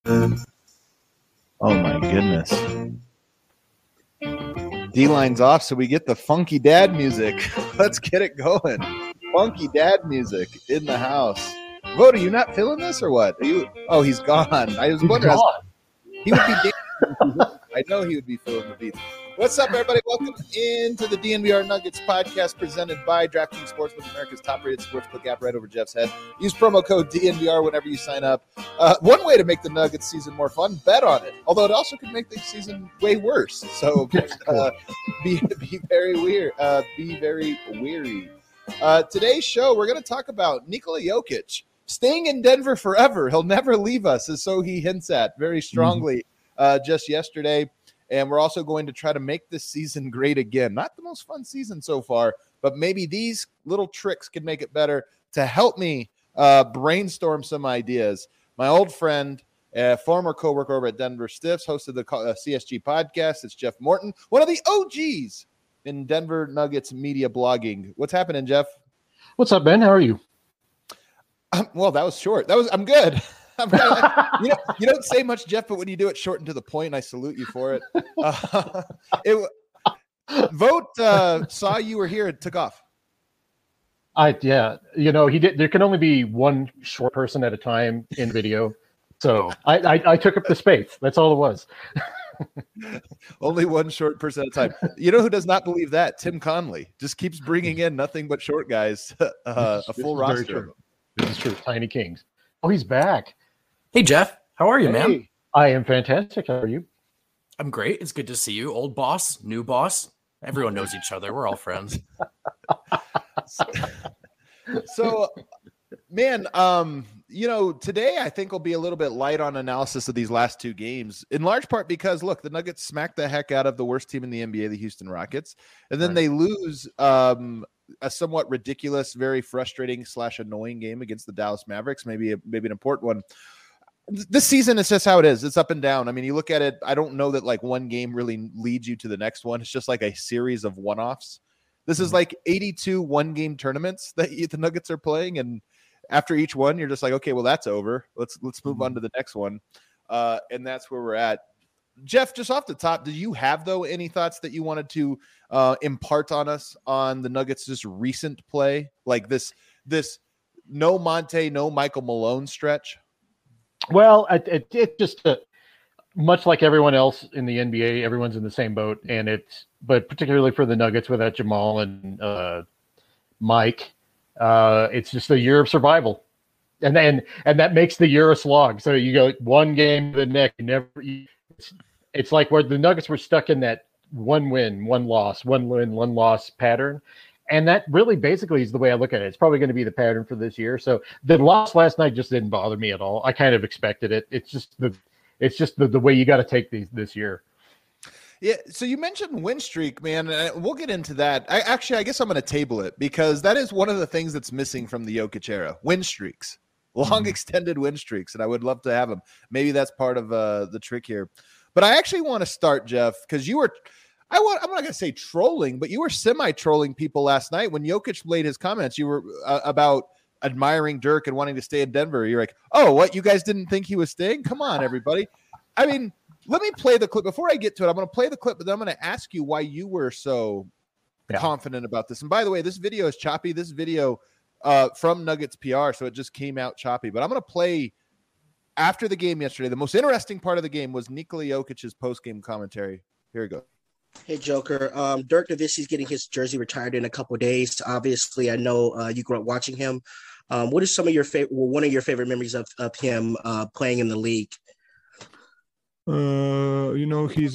Oh my goodness. D-line's off, so we get the funky dad music. Let's get it going. Funky dad music in the house. Vote, are you not feeling this or what? Are you? Oh, he's gone. I was wondering. He would be dancing. I know he would be feeling the beats. What's up, everybody? Welcome into the DNVR Nuggets podcast presented by DraftKings Sportsbook, America's top-rated sportsbook app, right over Jeff's head. Use promo code DNVR whenever you sign up. One way to make the Nuggets season more fun, bet on it. Although it also could make the season way worse. So be very weird. Be very weary. Today's show, we're going to talk about Nikola Jokic staying in Denver forever. He'll never leave us, as so he hints at very strongly just yesterday. And we're also going to try to make this season great again. Not the most fun season so far, but maybe these little tricks can make it better. To help me brainstorm some ideas, my old friend, former coworker over at Denver Stiffs, hosted the CSG podcast. It's Jeff Morton, one of the OGs in Denver Nuggets media blogging. What's happening, Jeff? What's up, Ben? How are you? Well, that was short. I'm good. You don't say much, Jeff, but when you do it short and to the point, I salute you for it. Vote saw you were here and took off. He did. There can only be one short person at a time in video, so I took up the space. That's all it was. Only one short person at a time. You know who does not believe that? Tim Conley just keeps bringing in nothing but short guys. A full roster. This is true. Tiny Kings. Oh, he's back. Hey, Jeff. How are you, man? I am fantastic. How are you? I'm great. It's good to see you. Old boss, new boss. Everyone knows each other. We're all friends. So, man, today I think will be a little bit light on analysis of these last two games, in large part because, look, the Nuggets smacked the heck out of the worst team in the NBA, the Houston Rockets, and then they lose a somewhat ridiculous, very frustrating / annoying game against the Dallas Mavericks, maybe an important one. This season is just how it is. It's up and down. I mean, you look at it, I don't know that like one game really leads you to the next one. It's just like a series of one-offs. This is like 82 one-game tournaments that the Nuggets are playing, and after each one, you're just like, okay, well, that's over. Let's move on to the next one. And that's where we're at. Jeff, just off the top, did you have, though, any thoughts that you wanted to impart on us on the Nuggets' just recent play? Like this no Monte, no Michael Malone stretch? Well, it just much like everyone else in the NBA, everyone's in the same boat, but particularly for the Nuggets without Jamal and Mike, it's just a year of survival, and that makes the year a slog. So you go one game to the next, it's like where the Nuggets were stuck in that one win, one loss, one win, one loss pattern. And that really basically is the way I look at it. It's probably going to be the pattern for this year. So the loss last night just didn't bother me at all. I kind of expected it. It's just the way you got to take these this year. Yeah. So you mentioned win streak, man. We'll get into that. I guess I'm going to table it because that is one of the things that's missing from the Jokic era. Win streaks, long extended win streaks. And I would love to have them. Maybe that's part of the trick here. But I actually want to start, Jeff, because you were – I'm not going to say trolling, but you were semi-trolling people last night when Jokic made his comments. You were about admiring Dirk and wanting to stay in Denver. You're like, oh, what? You guys didn't think he was staying? Come on, everybody. I mean, let me play the clip. Before I get to it, I'm going to play the clip, but then I'm going to ask you why you were so confident about this. And by the way, this video is choppy. This video from Nuggets PR, so it just came out choppy. But I'm going to play after the game yesterday. The most interesting part of the game was Nikola Jokic's post-game commentary. Here we go. Hey, Joker. Dirk Nowitzki's getting his jersey retired in a couple of days. Obviously, I know you grew up watching him. What is some of your one of your favorite memories of him playing in the league? He's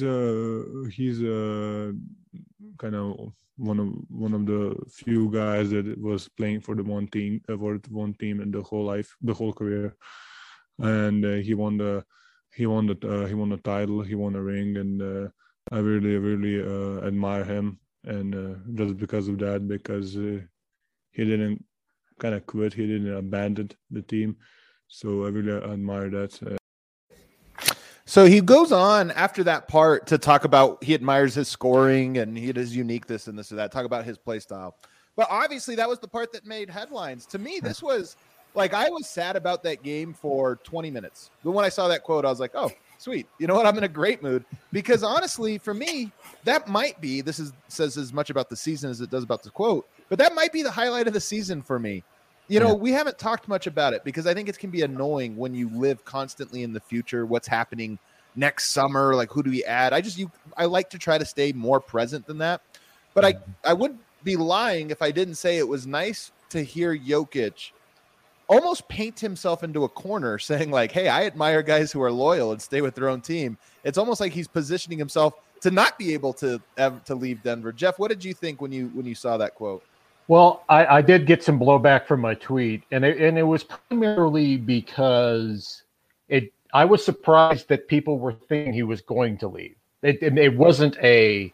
kind of one of the few guys that was playing for the one team in the whole career, and he won the title, he won a ring, and I really admire him, and just because of that, because he didn't kind of quit, he didn't abandon the team, so I really admire that. So he goes on after that part to talk about he admires his scoring and his unique this and that, talk about his play style. But obviously that was the part that made headlines. To me, this was Like, I was sad about that game for 20 minutes. But when I saw that quote, I was like, oh, sweet. You know what? I'm in a great mood. Because honestly, for me, that might be, says as much about the season as it does about the quote, but that might be the highlight of the season for me. You know, we haven't talked much about it because I think it can be annoying when you live constantly in the future, what's happening next summer, like who do we add? I like to try to stay more present than that. But I would be lying if I didn't say it was nice to hear Jokic almost paint himself into a corner saying like, hey, I admire guys who are loyal and stay with their own team. It's almost like he's positioning himself to not be able to leave Denver. Jeff, what did you think when you saw that quote? Well, I did get some blowback from my tweet, and it was primarily because I was surprised that people were thinking he was going to leave. It wasn't a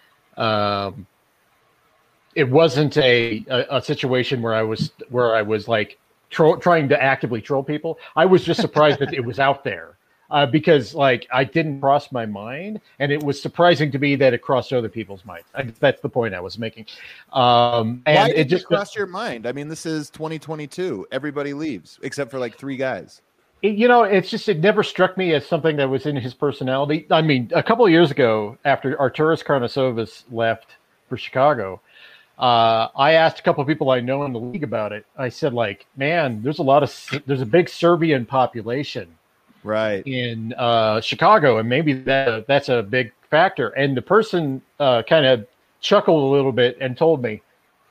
situation where I was like trying to actively troll people. I was just surprised that it was out there. Because like I didn't cross my mind, and it was surprising to me that it crossed other people's minds. That's the point I was making. And why did it just crossed your mind? I mean, this is 2022. Everybody leaves except for like 3 guys. It never struck me as something that was in his personality. I mean, a couple of years ago, after Arturas Karnisovas left for Chicago, I asked a couple of people I know in the league about it. I said, like, man, there's a big Serbian population. Right. In Chicago, and maybe that's a big factor. And the person kind of chuckled a little bit and told me,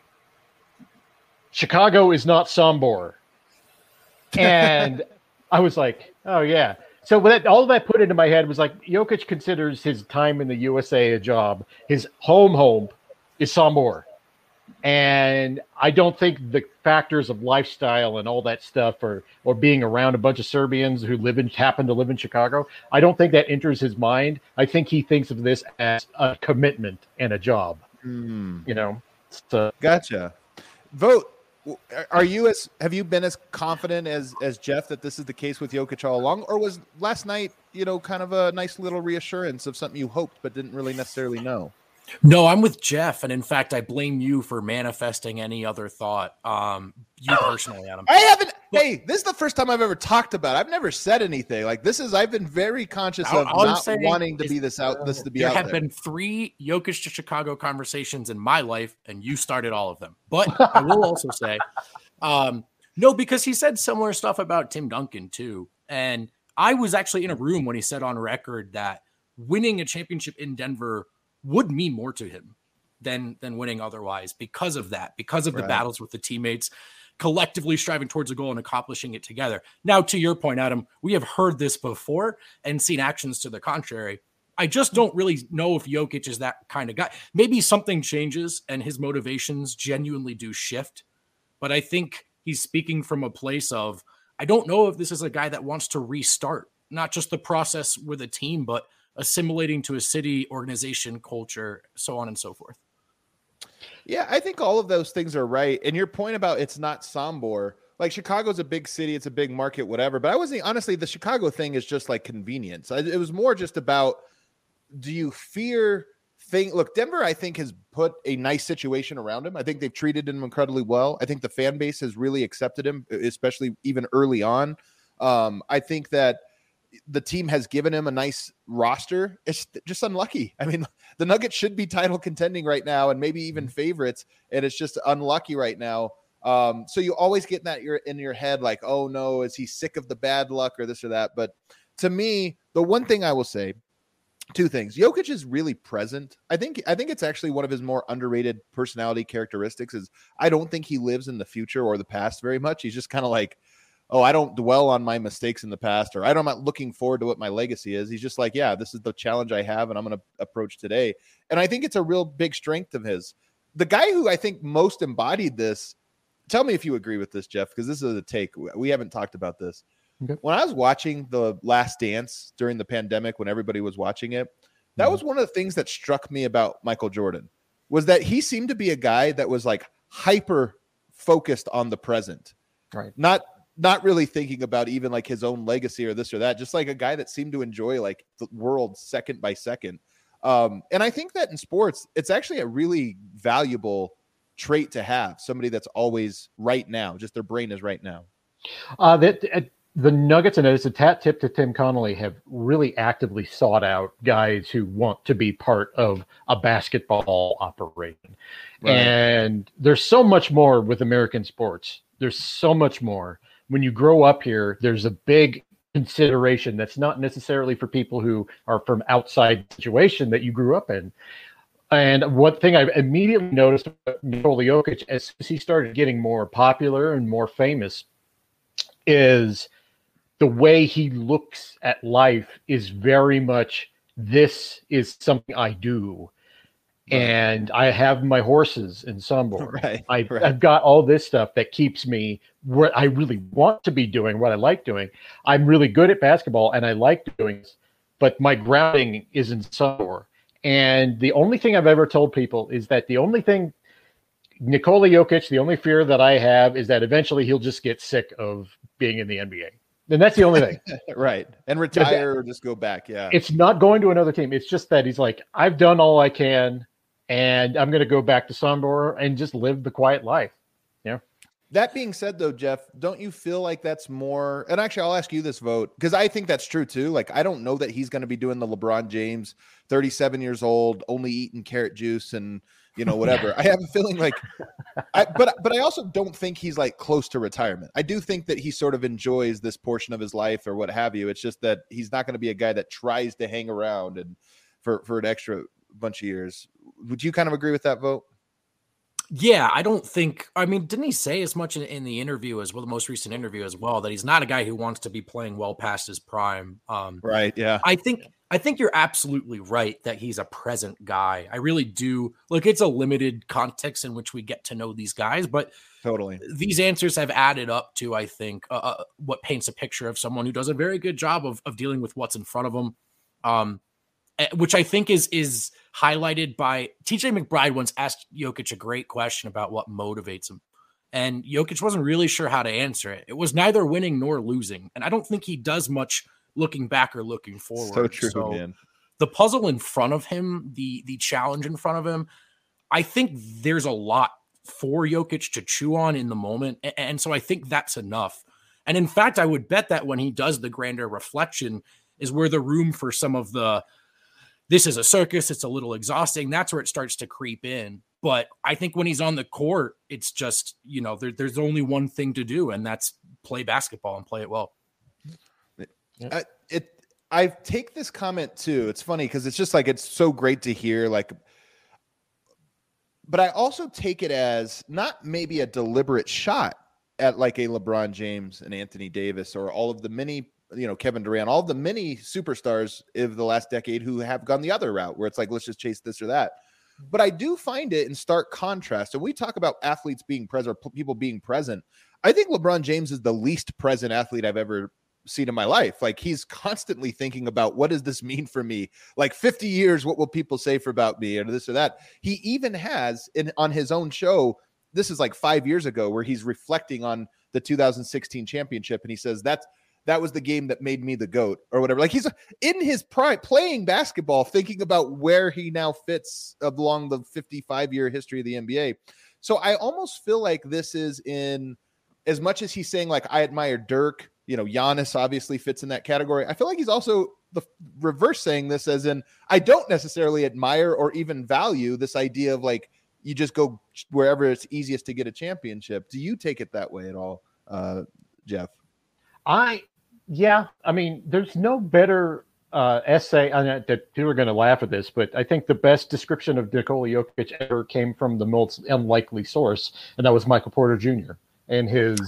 Chicago is not Sombor. And I was like, oh, yeah. So all that put into my head was like, Jokic considers his time in the USA a job. His home is Sombor. And I don't think the factors of lifestyle and all that stuff or being around a bunch of Serbians who happen to live in Chicago, I don't think that enters his mind. I think he thinks of this as a commitment and a job. You know? So. Gotcha. Vote. Have you been as confident as Jeff that this is the case with Jokic all along? Or was last night, kind of a nice little reassurance of something you hoped but didn't really necessarily know? No, I'm with Jeff, and in fact, I blame you for manifesting any other thought. You personally, Adam. I haven't. Hey, this is the first time I've ever talked about it. I've never said anything like this. I've been very conscious of not wanting to be this out. This to be out there. There have been 3 Jokic to Chicago conversations in my life, and you started all of them. But I will also say, no, because he said similar stuff about Tim Duncan too, and I was actually in a room when he said on record that winning a championship in Denver would mean more to him than winning otherwise because of that, because of the battles with the teammates, collectively striving towards a goal and accomplishing it together. Now, to your point, Adam, we have heard this before and seen actions to the contrary. I just don't really know if Jokic is that kind of guy. Maybe something changes and his motivations genuinely do shift, but I think he's speaking from a place of, I don't know if this is a guy that wants to restart, not just the process with a team, but assimilating to a city, organization, culture, so on and so forth. Yeah, I think all of those things are right. And your point about it's not Sombor, like Chicago's a big city, it's a big market, whatever. But honestly, the Chicago thing is just like convenience. It was more just about, do you fear look, Denver, I think, has put a nice situation around him. I think they've treated him incredibly well. I think the fan base has really accepted him, especially even early on. I think that the team has given him a nice roster. It's just unlucky. I mean, the Nuggets should be title contending right now and maybe even favorites, and it's just unlucky right now. So you always get that in your head, like, oh no, is he sick of the bad luck or this or that? But to me, the one thing I will say, 2 things. Jokic is really present. I think it's actually one of his more underrated personality characteristics is I don't think he lives in the future or the past very much. He's just kind of like, oh, I don't dwell on my mistakes in the past, or I'm not looking forward to what my legacy is. He's just like, yeah, this is the challenge I have, and I'm going to approach today. And I think it's a real big strength of his. The guy who I think most embodied this, tell me if you agree with this, Jeff, because this is a take. We haven't talked about this. Okay. When I was watching The Last Dance during the pandemic, when everybody was watching it, that was one of the things that struck me about Michael Jordan, was that he seemed to be a guy that was like hyper focused on the present. Right. Not really thinking about even like his own legacy or this or that, just like a guy that seemed to enjoy like the world second by second. And I think that in sports, it's actually a really valuable trait to have, somebody that's always right now, just their brain is right now. The Nuggets, and it's a tat tip to Tim Connolly, have really actively sought out guys who want to be part of a basketball operation. Right. And there's so much more with American sports. There's so much more. When you grow up here, there's a big consideration that's not necessarily for people who are from outside the situation that you grew up in. And one thing I immediately noticed about Nikola Jokic as he started getting more popular and more famous is the way he looks at life is very much, this is something I do. Right. And I have my horses in Sombor. Right. I've got all this stuff that keeps me where I really want to be doing, what I like doing. I'm really good at basketball and I like doing this, but my grounding is in Sombor. And the only thing I've ever told people is that the only thing, Nikola Jokic, the only fear that I have is that eventually he'll just get sick of being in the NBA. And that's the only thing. Right. And retire or just go back. Yeah. It's not going to another team. It's just that he's like, I've done all I can and I'm going to go back to Sombor and just live the quiet life. Yeah. That being said, though, Jeff, don't you feel like that's more? And actually, I'll ask you this, Vote, because I think that's true, too. Like, I don't know that he's going to be doing the LeBron James, 37 years old, only eating carrot juice and, you know, whatever. I have a feeling like, but I also don't think he's like close to retirement. I do think that he sort of enjoys this portion of his life or what have you. It's just that he's not going to be a guy that tries to hang around and for an extra bunch of years. Would you kind of agree with that, Vote? Yeah, I don't think, I mean, didn't he say as much in the interview as well, the most recent interview as well, that he's not a guy who wants to be playing well past his prime? Right. Yeah. I think you're absolutely right that he's a present guy. I really do. Look, it's a limited context in which we get to know these guys, but totally these answers have added up to, I think, what paints a picture of someone who does a very good job of dealing with what's in front of him. Which I think is highlighted by TJ McBride once asked Jokic a great question about what motivates him. And Jokic wasn't really sure how to answer it. It was neither winning nor losing. And I don't think he does much looking back or looking forward. So true, man. The puzzle in front of him, the challenge in front of him, I think there's a lot for Jokic to chew on in the moment. And so I think that's enough. And in fact, I would bet that when he does the grander reflection is where the room for some of the, this is a circus, it's a little exhausting, that's where it starts to creep in. But I think when he's on the court, it's just, you know, there's only one thing to do, and that's play basketball and play it well. I take this comment too. It's funny because it's just like, it's so great to hear, like, but I also take it as not maybe a deliberate shot at like a LeBron James and Anthony Davis or all of the many, you know, Kevin Durant, all the many superstars of the last decade who have gone the other route where it's like, let's just chase this or that. But I do find it in stark contrast. And we talk about athletes being present or people being present. I think LeBron James is the least present athlete I've ever seen in my life. Like, he's constantly thinking about, what does this mean for me? Like 50 years, what will people say about me or this or that? He even has on his own show, this is like 5 years ago, where he's reflecting on the 2016 championship. And he says, that was the game that made me the GOAT or whatever. Like, he's in his prime playing basketball, thinking about where he now fits along the 55-year history of the NBA. So I almost feel like this is in, as much as he's saying like, I admire Dirk, you know, Giannis obviously fits in that category. I feel like he's also the reverse saying this as in, I don't necessarily admire or even value this idea of like, you just go wherever it's easiest to get a championship. Do you take it that way at all, Jeff? Yeah, I mean, there's no better essay on it that people are going to laugh at this, but I think the best description of Nikola Jokic ever came from the most unlikely source, and that was Michael Porter Jr. and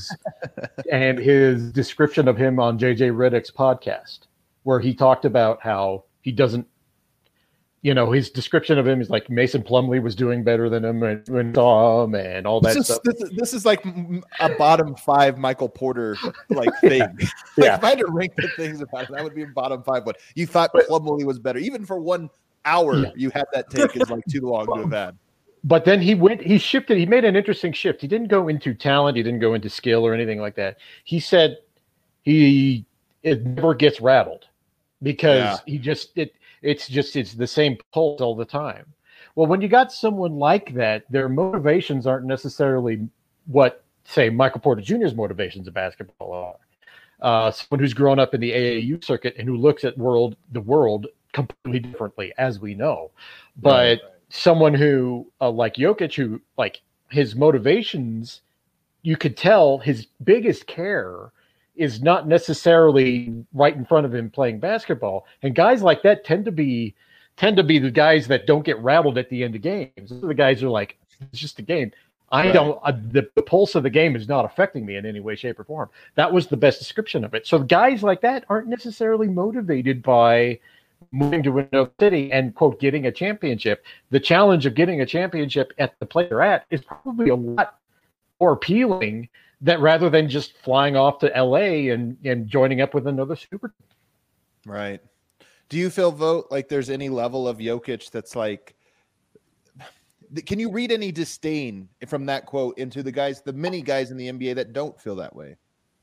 his description of him on JJ Redick's podcast, where he talked about how he doesn't, you know, his description of him is like Mason Plumlee was doing better than him when saw him and all that stuff. This is like a bottom 5 Michael Porter like thing. Yeah. If I had to rank the things about it, that would be a bottom 5 one. You thought Plumlee was better. Even for 1 hour, yeah. You had that take is like too long to have had. But then he shifted. He made an interesting shift. He didn't go into talent. He didn't go into skill or anything like that. He said it never gets rattled because it's the same pulse all the time. Well, when you got someone like that, their motivations aren't necessarily what say, Michael Porter Jr.'s motivations of basketball are. Someone who's grown up in the AAU circuit and who looks at the world completely differently, as we know. But someone who, like Jokic, who, like, his motivations, you could tell his biggest care is not necessarily right in front of him playing basketball. And guys like that tend to be the guys that don't get rattled at the end of games. Those are the guys who are like, it's just a game. The pulse of the game is not affecting me in any way, shape, or form. That was the best description of it. So guys like that aren't necessarily motivated by moving to another city and, quote, getting a championship. The challenge of getting a championship at the place they're at is probably a lot more appealing that rather than just flying off to LA and joining up with another super team. Right. Do you feel, Vogt, like there's any level of Jokic that's like, can you read any disdain from that quote into the many guys in the NBA that don't feel that way?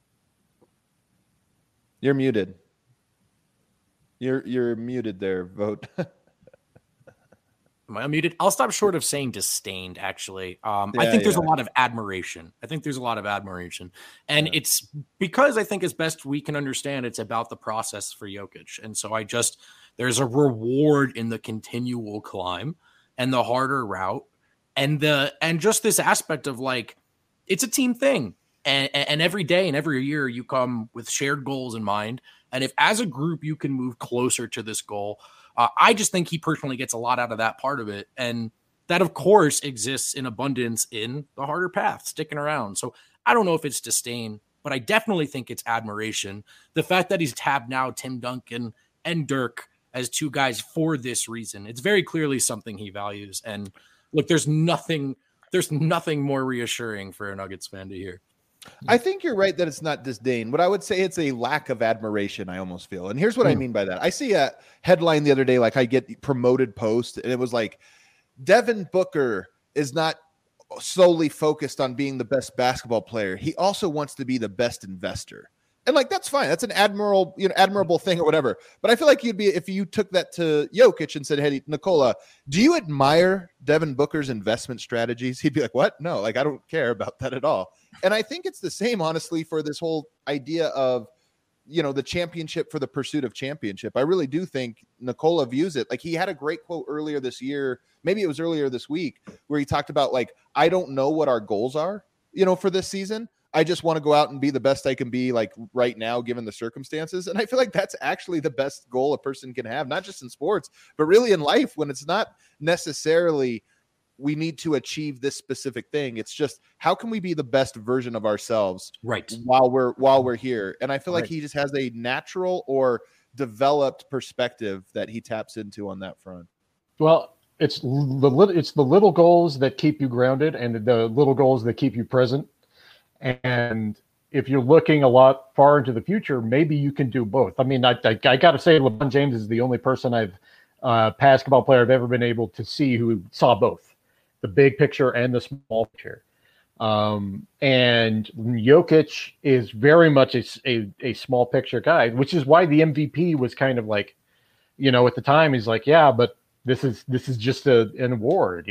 You're muted. You're muted there, Vogt. Am I unmuted? I'll stop short of saying disdained, actually. I think there's a lot of admiration. And it's because I think as best we can understand, it's about the process for Jokic. And so there's a reward in the continual climb and the harder route and just this aspect of, like, it's a team thing. And every day and every year you come with shared goals in mind. And if as a group you can move closer to this goal, I just think he personally gets a lot out of that part of it. And that, of course, exists in abundance in the harder path, sticking around. So I don't know if it's disdain, but I definitely think it's admiration. The fact that he's tabbed now Tim Duncan and Dirk as two guys for this reason, it's very clearly something he values. And look, there's nothing more reassuring for a Nuggets fan to hear. I think you're right that it's not disdain. What I would say, it's a lack of admiration, I almost feel. And here's what I mean by that. I see a headline the other day, like I get promoted post, and it was like, Devin Booker is not solely focused on being the best basketball player. He also wants to be the best investor. And, like, that's fine. That's an admirable thing or whatever. But I feel like if you took that to Jokic and said, hey, Nikola, do you admire Devin Booker's investment strategies? He'd be like, what? No, like, I don't care about that at all. And I think it's the same, honestly, for this whole idea of, the championship for the pursuit of championship. I really do think Nikola views it. Like, he had a great quote earlier this year, maybe it was earlier this week, where he talked about, like, I don't know what our goals are, for this season. I just want to go out and be the best I can be, like, right now, given the circumstances. And I feel like that's actually the best goal a person can have, not just in sports, but really in life, when it's not necessarily we need to achieve this specific thing. It's just, how can we be the best version of ourselves while we're here? And I feel like he just has a natural or developed perspective that he taps into on that front. Well, it's the little goals that keep you grounded and the little goals that keep you present. And if you're looking a lot far into the future, maybe you can do both. I mean, I got to say, LeBron James is the only person basketball player I've ever been able to see who saw both the big picture and the small picture. And Jokic is very much a small picture guy, which is why the MVP was kind of like, at the time he's like, yeah, but this is just an award.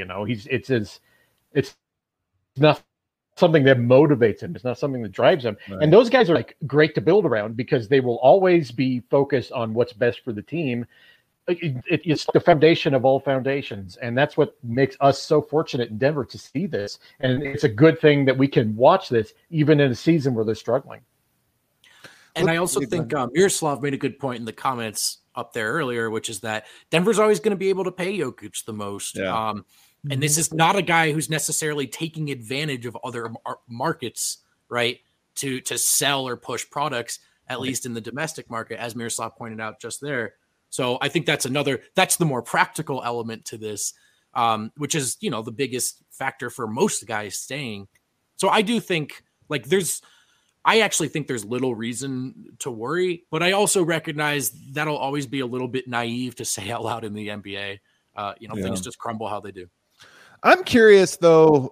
It's not something that motivates him. It's not something that drives him. Right. And those guys are, like, great to build around because they will always be focused on what's best for the team. It's the foundation of all foundations. And that's what makes us so fortunate in Denver to see this. And it's a good thing that we can watch this even in a season where they're struggling. And I also think Miroslav made a good point in the comments up there earlier, which is that Denver's always going to be able to pay Jokic the most. Yeah. And this is not a guy who's necessarily taking advantage of other markets, right, to sell or push products, at least in the domestic market, as Miroslav pointed out just there. So I think that's the more practical element to this, which is, the biggest factor for most guys staying. So I do think, like, I actually think there's little reason to worry, but I also recognize that'll always be a little bit naive to say out loud in the NBA. Things just crumble how they do. I'm curious, though,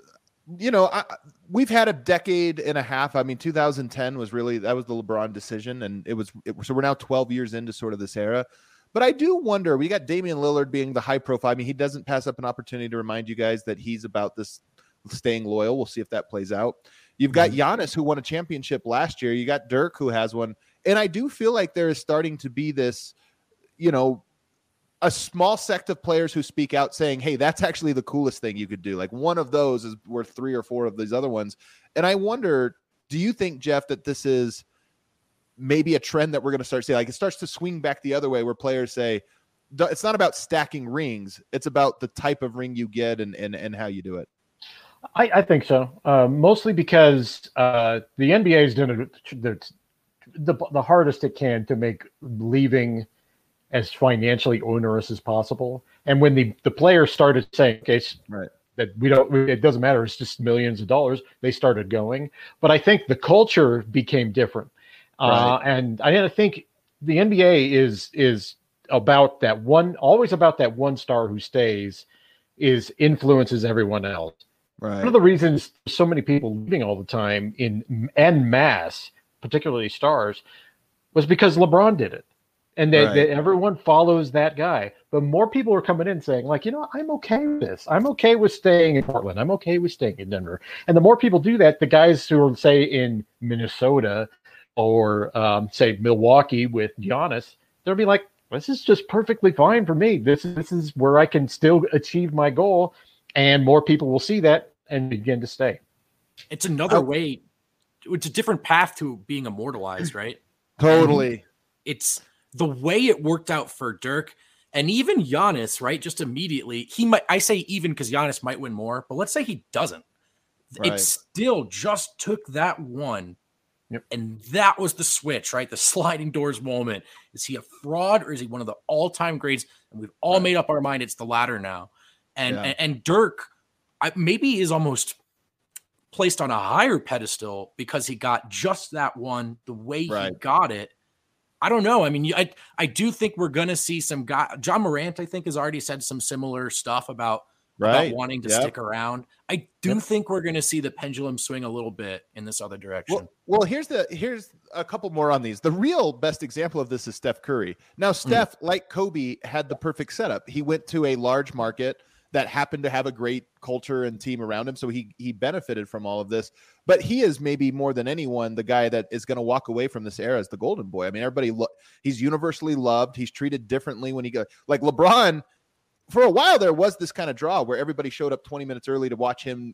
we've had a decade and a half. I mean, 2010 was the LeBron decision, and so we're now 12 years into sort of this era. But I do wonder, we got Damian Lillard being the high profile. I mean, he doesn't pass up an opportunity to remind you guys that he's about this staying loyal. We'll see if that plays out. You've got Giannis, who won a championship last year. You got Dirk, who has one. And I do feel like there is starting to be this, a small sect of players who speak out saying, hey, that's actually the coolest thing you could do. Like one of those is worth 3 or 4 of these other ones. And I wonder, do you think, Jeff, that this is maybe a trend that we're going to start seeing? Like it starts to swing back the other way where players say, it's not about stacking rings. It's about the type of ring you get and how you do it. I think so. Mostly because the NBA is doing the hardest it can to make leaving as financially onerous as possible. And when the players started saying, okay, right, that it doesn't matter, it's just millions of dollars, they started going. But I think the culture became different. Right. And I think the NBA is about that one, always about that one star who stays, influences everyone else. Right. One of the reasons so many people leaving all the time en masse, particularly stars, was because LeBron did it. And everyone follows that guy. But more people are coming in saying, like, I'm okay with this. I'm okay with staying in Portland. I'm okay with staying in Denver. And the more people do that, the guys who are, say, in Minnesota or, say, Milwaukee with Giannis, they'll be like, this is just perfectly fine for me. This is where I can still achieve my goal. And more people will see that and begin to stay. It's another way. It's a different path to being immortalized, right? Totally. It's the way it worked out for Dirk and even Giannis, right? Just immediately, I say even because Giannis might win more, but let's say he doesn't. Right. It still just took that one. Yep. And that was the switch, right? The sliding doors moment. Is he a fraud or is he one of the all-time greats? And we've all made up our mind it's the latter now. And Dirk maybe is almost placed on a higher pedestal because he got just that one, the way he got it. I don't know. I mean, I do think we're going to see some guy. John Morant, I think, has already said some similar stuff about wanting to stick around. I do think we're going to see the pendulum swing a little bit in this other direction. Well, here's a couple more on these. The real best example of this is Steph Curry. Now, Steph, like Kobe, had the perfect setup. He went to a large market that happened to have a great culture and team around him. So he benefited from all of this, but he is maybe more than anyone, the guy that is going to walk away from this era as the golden boy. I mean, he's universally loved. He's treated differently when he goes, like LeBron. For a while, there was this kind of draw where everybody showed up 20 minutes early to watch him,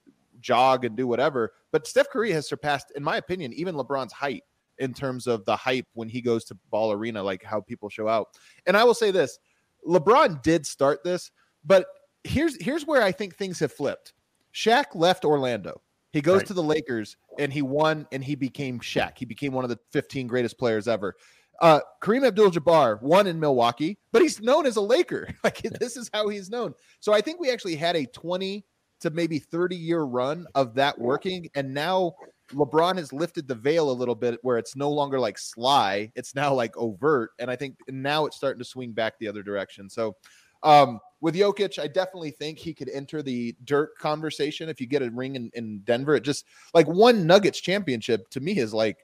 jog and do whatever. But Steph Curry has surpassed, in my opinion, even LeBron's height in terms of the hype when he goes to Ball Arena, like how people show out. And I will say this, LeBron did start this, but here's where I think things have flipped. Shaq left Orlando. He goes to the Lakers and he won and he became Shaq. He became one of the 15 greatest players ever. Kareem Abdul-Jabbar won in Milwaukee, but he's known as a Laker. This is how he's known. So I think we actually had a 20 to maybe 30-year run of that working. And now LeBron has lifted the veil a little bit where it's no longer like sly. It's now like overt. And I think now it's starting to swing back the other direction. So with Jokic, I definitely think he could enter the Dirk conversation. If you get a ring in Denver, it just like one Nuggets championship to me is like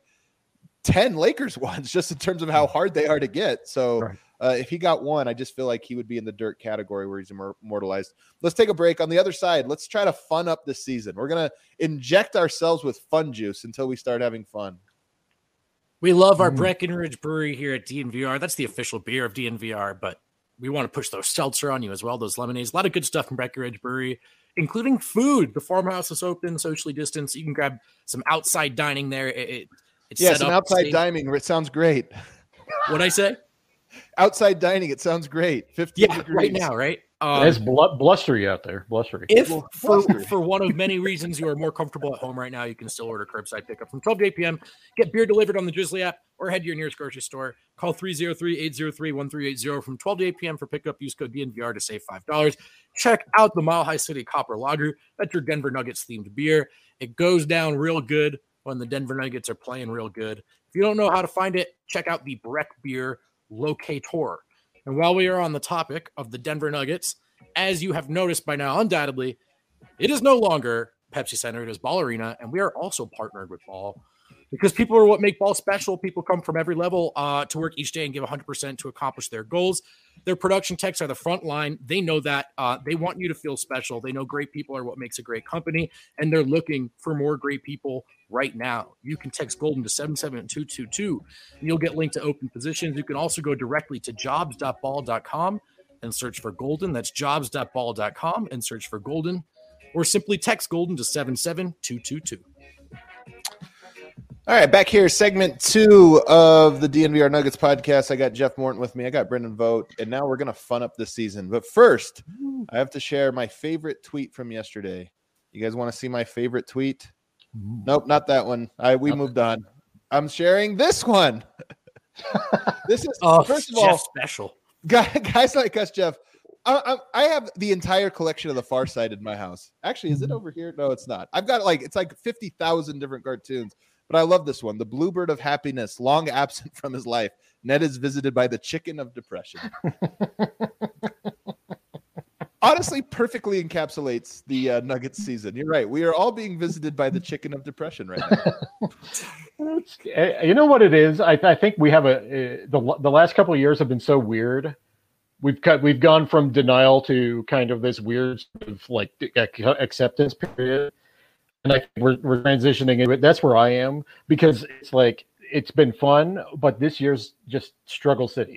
10 Lakers ones just in terms of how hard they are to get. So if he got one, I just feel like he would be in the Dirk category where he's immortalized. Let's take a break. On the other side, let's try to fun up this season. We're going to inject ourselves with fun juice until we start having fun. We love our Breckenridge Brewery here at DNVR. That's the official beer of DNVR, but we want to push those seltzer on you as well, those lemonades. A lot of good stuff from Breckenridge Brewery, including food. The farmhouse is open, socially distanced. You can grab some outside dining there. It's some outside dining. It sounds great. What'd I say? Outside dining. It sounds great. 15 degrees. Right now, right? It's blustery out there. Blustery. If for one of many reasons you are more comfortable at home right now, you can still order curbside pickup from 12 to 8 p.m. Get beer delivered on the Drizzly app or head to your nearest grocery store. Call 303-803-1380 from 12 to 8 p.m. for pickup. Use code DNVR to save $5. Check out the Mile High City Copper Lager. That's your Denver Nuggets themed beer. It goes down real good when the Denver Nuggets are playing real good. If you don't know how to find it, check out the Breck Beer Locator. And while we are on the topic of the Denver Nuggets, as you have noticed by now, undoubtedly, it is no longer Pepsi Center. It is Ball Arena, and we are also partnered with Ball. because people are what make ball special. People come from every level to work each day and give 100% to accomplish their goals. Their production techs are the front line. They know that. They want you to feel special. They know great people are what makes a great company, and they're looking for more great people right now. You can text Golden to 77222, and you'll get linked to open positions. You can also go directly to jobs.ball.com and search for Golden. That's jobs.ball.com and search for Golden, or simply text Golden to 77222. All right, back here, segment 2 of the DNVR Nuggets podcast. I got Jeff Morton with me. I got Brendan Vogt, and now we're going to fun up this season. But first, I have to share my favorite tweet from yesterday. You guys want to see my favorite tweet? Nope, not that one. We moved on. I'm sharing this one. This is, first of all, special. Guys like us, Jeff. I have the entire collection of The Far Side in my house. Actually, is it over here? No, it's not. I've got it's like 50,000 different cartoons. But I love this one. The Bluebird of Happiness, long absent from his life. Ned is visited by the chicken of depression. Honestly, perfectly encapsulates the Nuggets season. You're right. We are all being visited by the chicken of depression right now. You know what it is? I think we have the last couple of years have been so weird. We've gone from denial to kind of this weird sort of acceptance period. And I think we're transitioning into it. That's where I am, because it's been fun, but this year's just Struggle City,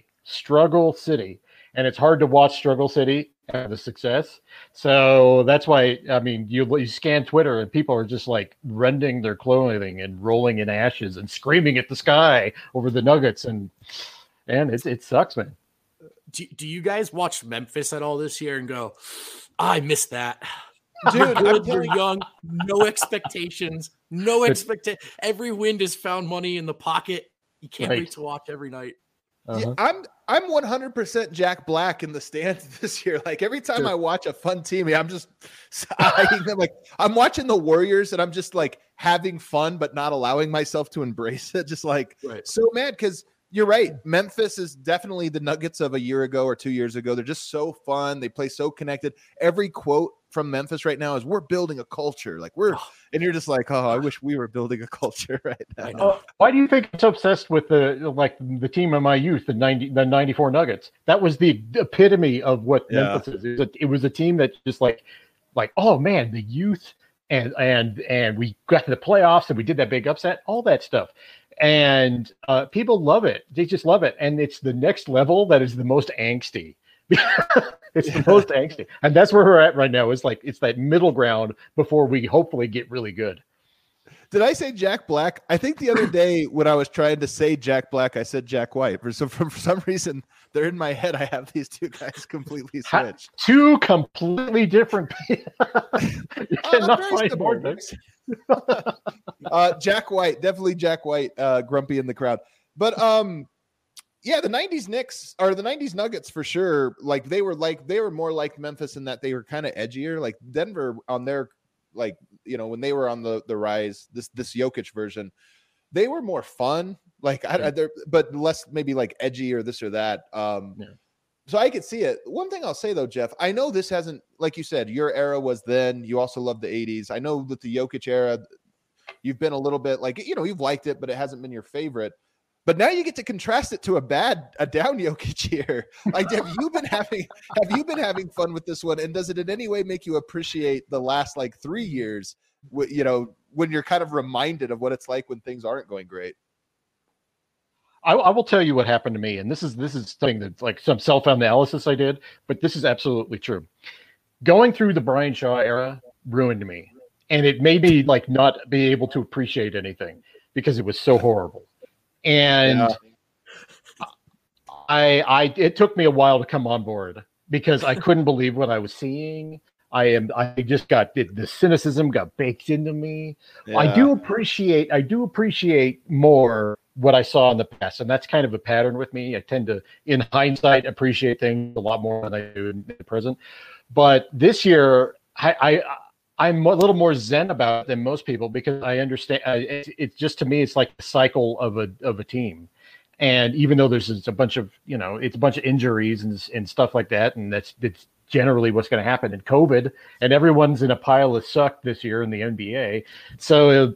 and it's hard to watch Struggle City have the success. So that's why, I mean, you scan Twitter and people are just rending their clothing and rolling in ashes and screaming at the sky over the Nuggets, and it sucks, man. Do you guys watch Memphis at all this year and go, I miss that? Dude, you're young, no expectations, every wind has found money in the pocket. You can't wait to watch every night. Yeah, I'm 100% Jack Black in the stands this year. Every time I watch a fun team, I'm just I'm watching the Warriors and I'm just having fun, but not allowing myself to embrace it. Just so mad, because you're right. Memphis is definitely the Nuggets of a year ago or 2 years ago. They're just so fun. They play so connected. Every quote from Memphis right now is, we're building a culture. And you're just I wish we were building a culture right now. Why do you think I'm so obsessed with the team of my youth, the 94 Nuggets? That was the epitome of what Memphis is. It was a team that just oh man, the youth and we got to the playoffs and we did that big upset, all that stuff. And people love it. They just love it. And it's the next level that is the most angsty. It's the most angsty. And that's where we're at right now. It's that middle ground before we hopefully get really good. Did I say Jack Black? I think the other day when I was trying to say Jack Black, I said Jack White. For some reason, they're in my head. I have these two guys completely switched. Two completely different people. You cannot find more. Jack White, definitely Jack White, grumpy in the crowd. But yeah, the 90s Knicks or the 90s Nuggets for sure. They were more like Memphis in that they were kind of edgier. Denver on their when they were on the rise, this Jokic version, they were more fun, but less maybe edgy or this or that. So I could see it. One thing I'll say though, Jeff, I know this hasn't, like you said, your era was then. You also love the 80s. I know that the Jokic era, you've been a little bit you've liked it, but it hasn't been your favorite. But now you get to contrast it to a down Jokic here. Have you been having fun with this one? And does it in any way make you appreciate the last 3 years? When you're kind of reminded of what it's like when things aren't going great. I will tell you what happened to me, and this is something that's some self-analysis I did, but this is absolutely true. Going through the Brian Shaw era ruined me, and it made me not be able to appreciate anything because it was so horrible. And it took me a while to come on board because I couldn't believe what I was seeing. I just got the cynicism got baked into me. Yeah. I do appreciate more what I saw in the past, and that's kind of a pattern with me. I tend to, in hindsight, appreciate things a lot more than I do in the present. But this year, I'm a little more zen about it than most people because I understand. It's just, to me, it's like a cycle of a team. And even though there's a bunch of, it's a bunch of injuries and stuff like that, and it's generally what's going to happen in COVID, and everyone's in a pile of suck this year in the NBA. So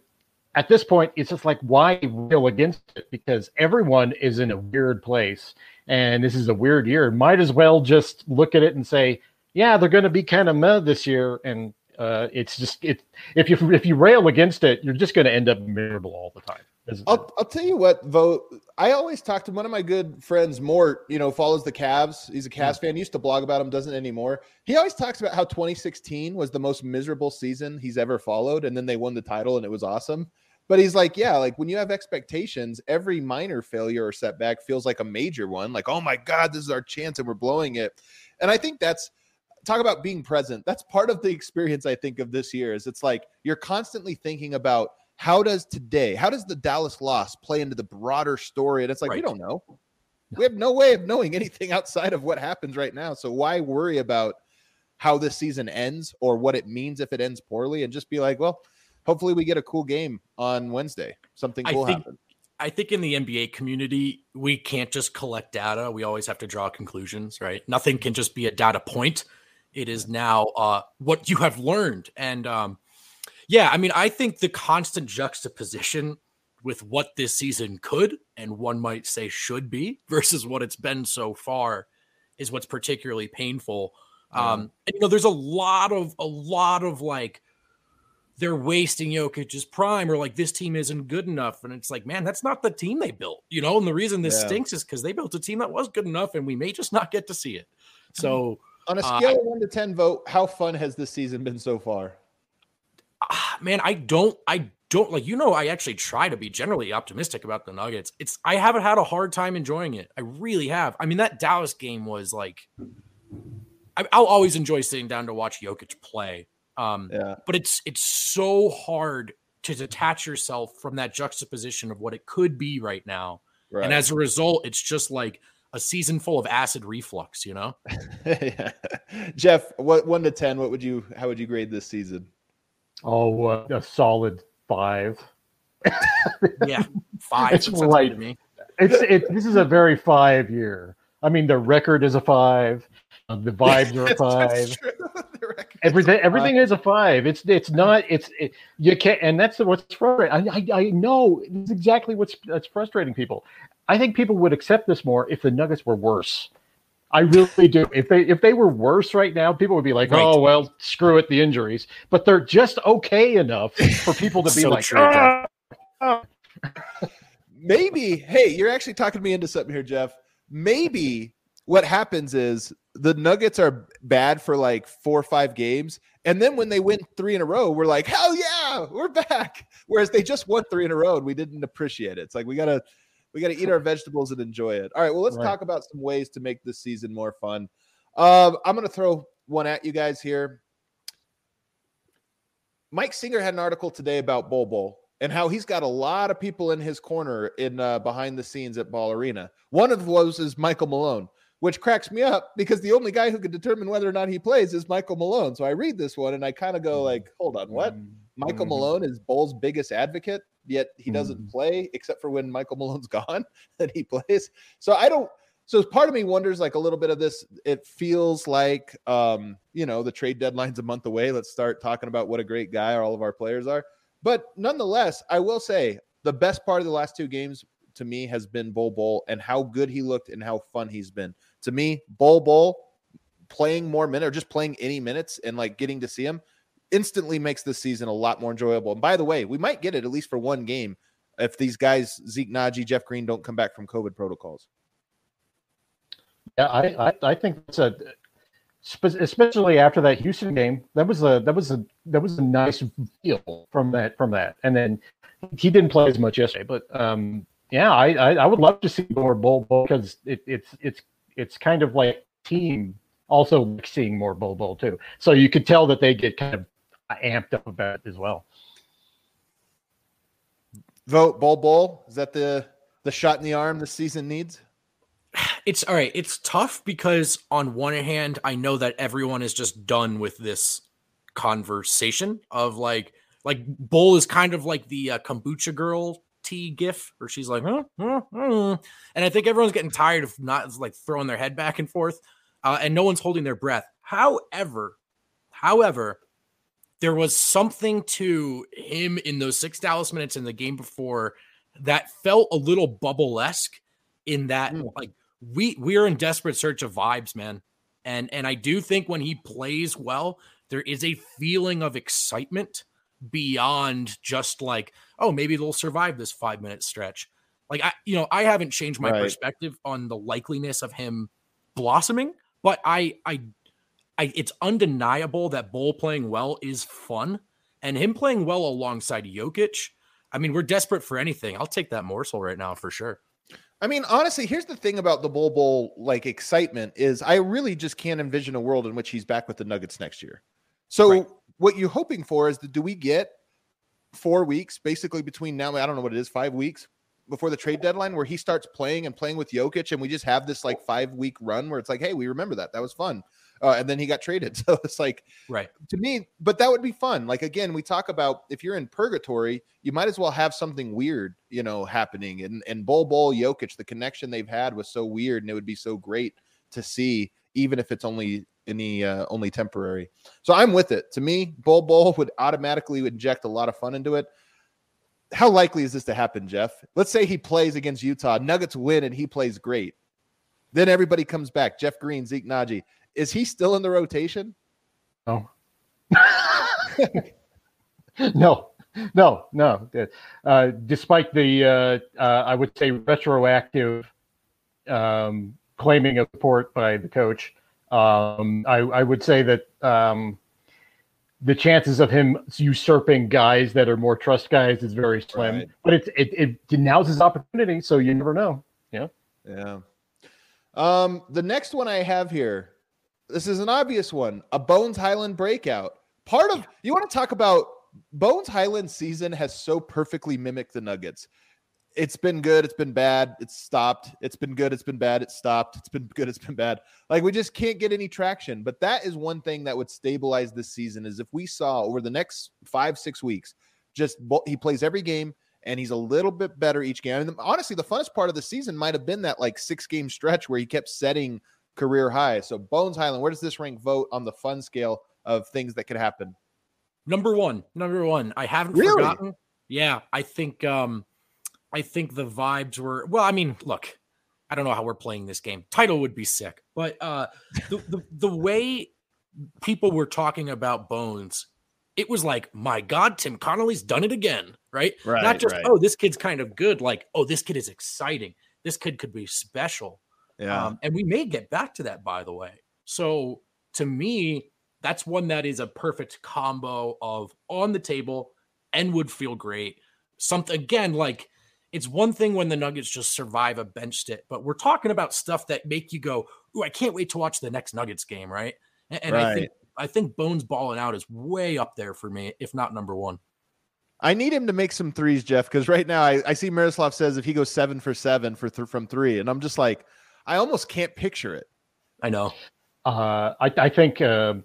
at this point, it's just like, why rail against it? Because everyone is in a weird place, and this is a weird year. Might as well just look at it and say, yeah, they're going to be kind of meh this year, and it's just it. If you rail against it, you're just going to end up miserable all the time. I'll tell you what, Vote. I always talk to one of my good friends, Mort, follows the Cavs. He's a Cavs fan. He used to blog about them, doesn't anymore. He always talks about how 2016 was the most miserable season he's ever followed. And then they won the title and it was awesome. But he's like, yeah, like when you have expectations, every minor failure or setback feels like a major one. Like, oh my God, this is our chance and we're blowing it. And I think talk about being present. That's part of the experience, I think, of this year is it's like you're constantly thinking about, how does the Dallas loss play into the broader story? And it's like, We don't know. We have no way of knowing anything outside of what happens right now. So why worry about how this season ends or what it means if it ends poorly, and just be like, well, hopefully we get a cool game on Wednesday. Something cool happen. I think in the NBA community, we can't just collect data. We always have to draw conclusions, right? Nothing can just be a data point. It is now what you have learned. And, yeah, I mean, I think the constant juxtaposition with what this season could and one might say should be versus what it's been so far is what's particularly painful. And, there's a lot of like they're wasting Jokic's prime, or like this team isn't good enough. And it's like, man, that's not the team they built, And the reason this stinks is because they built a team that was good enough and we may just not get to see it. So on a scale of 1 to 10, Vote, how fun has this season been so far? Man, I don't like, I actually try to be generally optimistic about the Nuggets. I haven't had a hard time enjoying it. I really have. I mean, that Dallas game was like, I'll always enjoy sitting down to watch Jokic play. But it's so hard to detach yourself from that juxtaposition of what it could be right now. Right. And as a result, it's just like a season full of acid reflux, Yeah. Jeff, what 1 to 10, how would you grade this season? Oh, a solid 5. Yeah, 5. It's right. This is a very 5 year. I mean, the record is a 5. The vibes are a 5. Everything is a 5. It's not. You can't, and that's what's frustrating. I know it's exactly that's frustrating people. I think people would accept this more if the Nuggets were worse. I really do. If they were worse right now, people would be like, "Oh well, screw it, the injuries." But they're just okay enough for people to be like, Maybe. Hey, you're actually talking me into something here, Jeff. Maybe what happens is the Nuggets are bad for like 4 or 5 games, and then when they win 3 in a row, we're like, "Hell yeah, we're back!" Whereas they just won 3 in a row, and we didn't appreciate it. It's like we gotta eat our vegetables and enjoy it. All right, well, let's talk about some ways to make this season more fun. I'm going to throw one at you guys here. Mike Singer had an article today about Bol Bol and how he's got a lot of people in his corner in behind the scenes at Ball Arena. One of those is Michael Malone, which cracks me up because the only guy who can determine whether or not he plays is Michael Malone. So I read this one and I kind of go like, hold on, what? Michael Malone is Bol's biggest advocate, yet he doesn't play except for when Michael Malone's gone that he plays. So part of me wonders like a little bit of this. It feels like, the trade deadline's a month away. Let's start talking about what a great guy all of our players are. But nonetheless, I will say the best part of the last 2 games to me has been Bol Bol and how good he looked and how fun he's been. To me, Bol Bol playing more minutes or just playing any minutes and like getting to see him instantly makes this season a lot more enjoyable. And by the way, we might get it at least for 1 game if these guys, Zeke Naji, Jeff Green, don't come back from COVID protocols. Yeah, I think it's especially after that Houston game, that was a nice feel from that. And then he didn't play as much yesterday, but I would love to see more Bol Bol because it's kind of like team also seeing more Bol Bol too. So you could tell that they get kind of amped up about it as well. Vote Bol Bol. Is that the shot in the arm the season needs? It's all right. It's tough because on one hand, I know that everyone is just done with this conversation of like Bol is kind of like the kombucha girl tea gif where she's like, and I think everyone's getting tired of not like throwing their head back and forth, and no one's holding their breath. However, there was something to him in those 6 Dallas minutes in the game before that felt a little bubble-esque in that like we're in desperate search of vibes, man. And I do think when he plays well, there is a feeling of excitement beyond just like, oh, maybe they'll survive this 5-minute stretch. Like I haven't changed my perspective on the likeliness of him blossoming, but it's undeniable that Bol playing well is fun, and him playing well alongside Jokic. I mean, we're desperate for anything. I'll take that morsel right now for sure. I mean, honestly, here's the thing about the Bol like excitement is I really just can't envision a world in which he's back with the Nuggets next year. So what you're hoping for is do we get 4 weeks basically between now, I don't know what it is, 5 weeks before the trade deadline where he starts playing with Jokic, and we just have this like 5-week run where it's like, hey, we remember that was fun. And then he got traded. So it's like, to me, but that would be fun. Like, again, we talk about if you're in purgatory, you might as well have something weird, happening. And Bol Jokic, the connection they've had was so weird, and it would be so great to see, even if it's only temporary. So I'm with it. To me, Bol would automatically inject a lot of fun into it. How likely is this to happen, Jeff? Let's say he plays against Utah, Nuggets win, and he plays great. Then everybody comes back. Jeff Green, Zeke Naji. Is he still in the rotation? No. No. Despite the, I would say, retroactive claiming of support by the coach, I would say that the chances of him usurping guys that are more trust guys is very slim. Right. But it now's his opportunity, so you never know. Yeah. The next one I have here, this is an obvious one, a Bones Hyland breakout. You want to talk about Bones Hyland's season has so perfectly mimicked the Nuggets. It's been good, it's been bad, it's stopped. It's been good, it's been bad, it's stopped. It's been good, it's been bad. Like, we just can't get any traction. But that is one thing that would stabilize this season is if we saw over the next 5-6 weeks, just he plays every game and he's a little bit better each game. And honestly, the funnest part of the season might have been that like 6-game stretch where he kept setting career highs. So Bones Hyland, where does this rank vote on the fun scale of things that could happen? Number one. I haven't forgotten. Yeah, I think the vibes were, well, I mean, look, I don't know how we're playing this game. Title would be sick, but the way people were talking about Bones, it was like, my God, Tim Connolly's done it again, right? Not just, oh, this kid's kind of good. Like, oh, this kid is exciting. This kid could be special. Yeah. And we may get back to that, by the way. So to me, that's one that is a perfect combo of on the table and would feel great. Something, again, like, it's one thing when the Nuggets just survive a bench sit, but we're talking about stuff that make you go, ooh, I can't wait to watch the next Nuggets game, right? And I think Bones balling out is way up there for me, if not number one. I need him to make some threes, Jeff, because right now I see Miroslav says if he goes 7 for 7 from three, and I'm just like, I almost can't picture it. I know. I think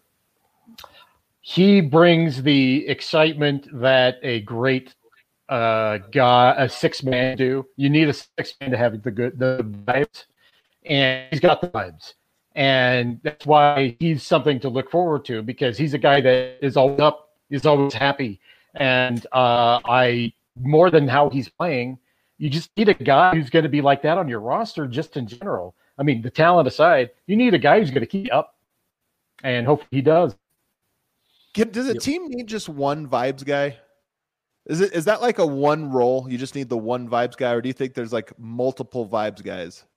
he brings the excitement that a great guy, a 6-man do. You need a 6-man to have the vibes, and he's got the vibes. And that's why he's something to look forward to, because he's a guy that is always up, is always happy. And more than how he's playing, you just need a guy who's going to be like that on your roster just in general. I mean, the talent aside, you need a guy who's going to keep you up, and hopefully he does. Does a team need just one vibes guy? Is that like a one role? You just need the one vibes guy, or do you think there's like multiple vibes guys?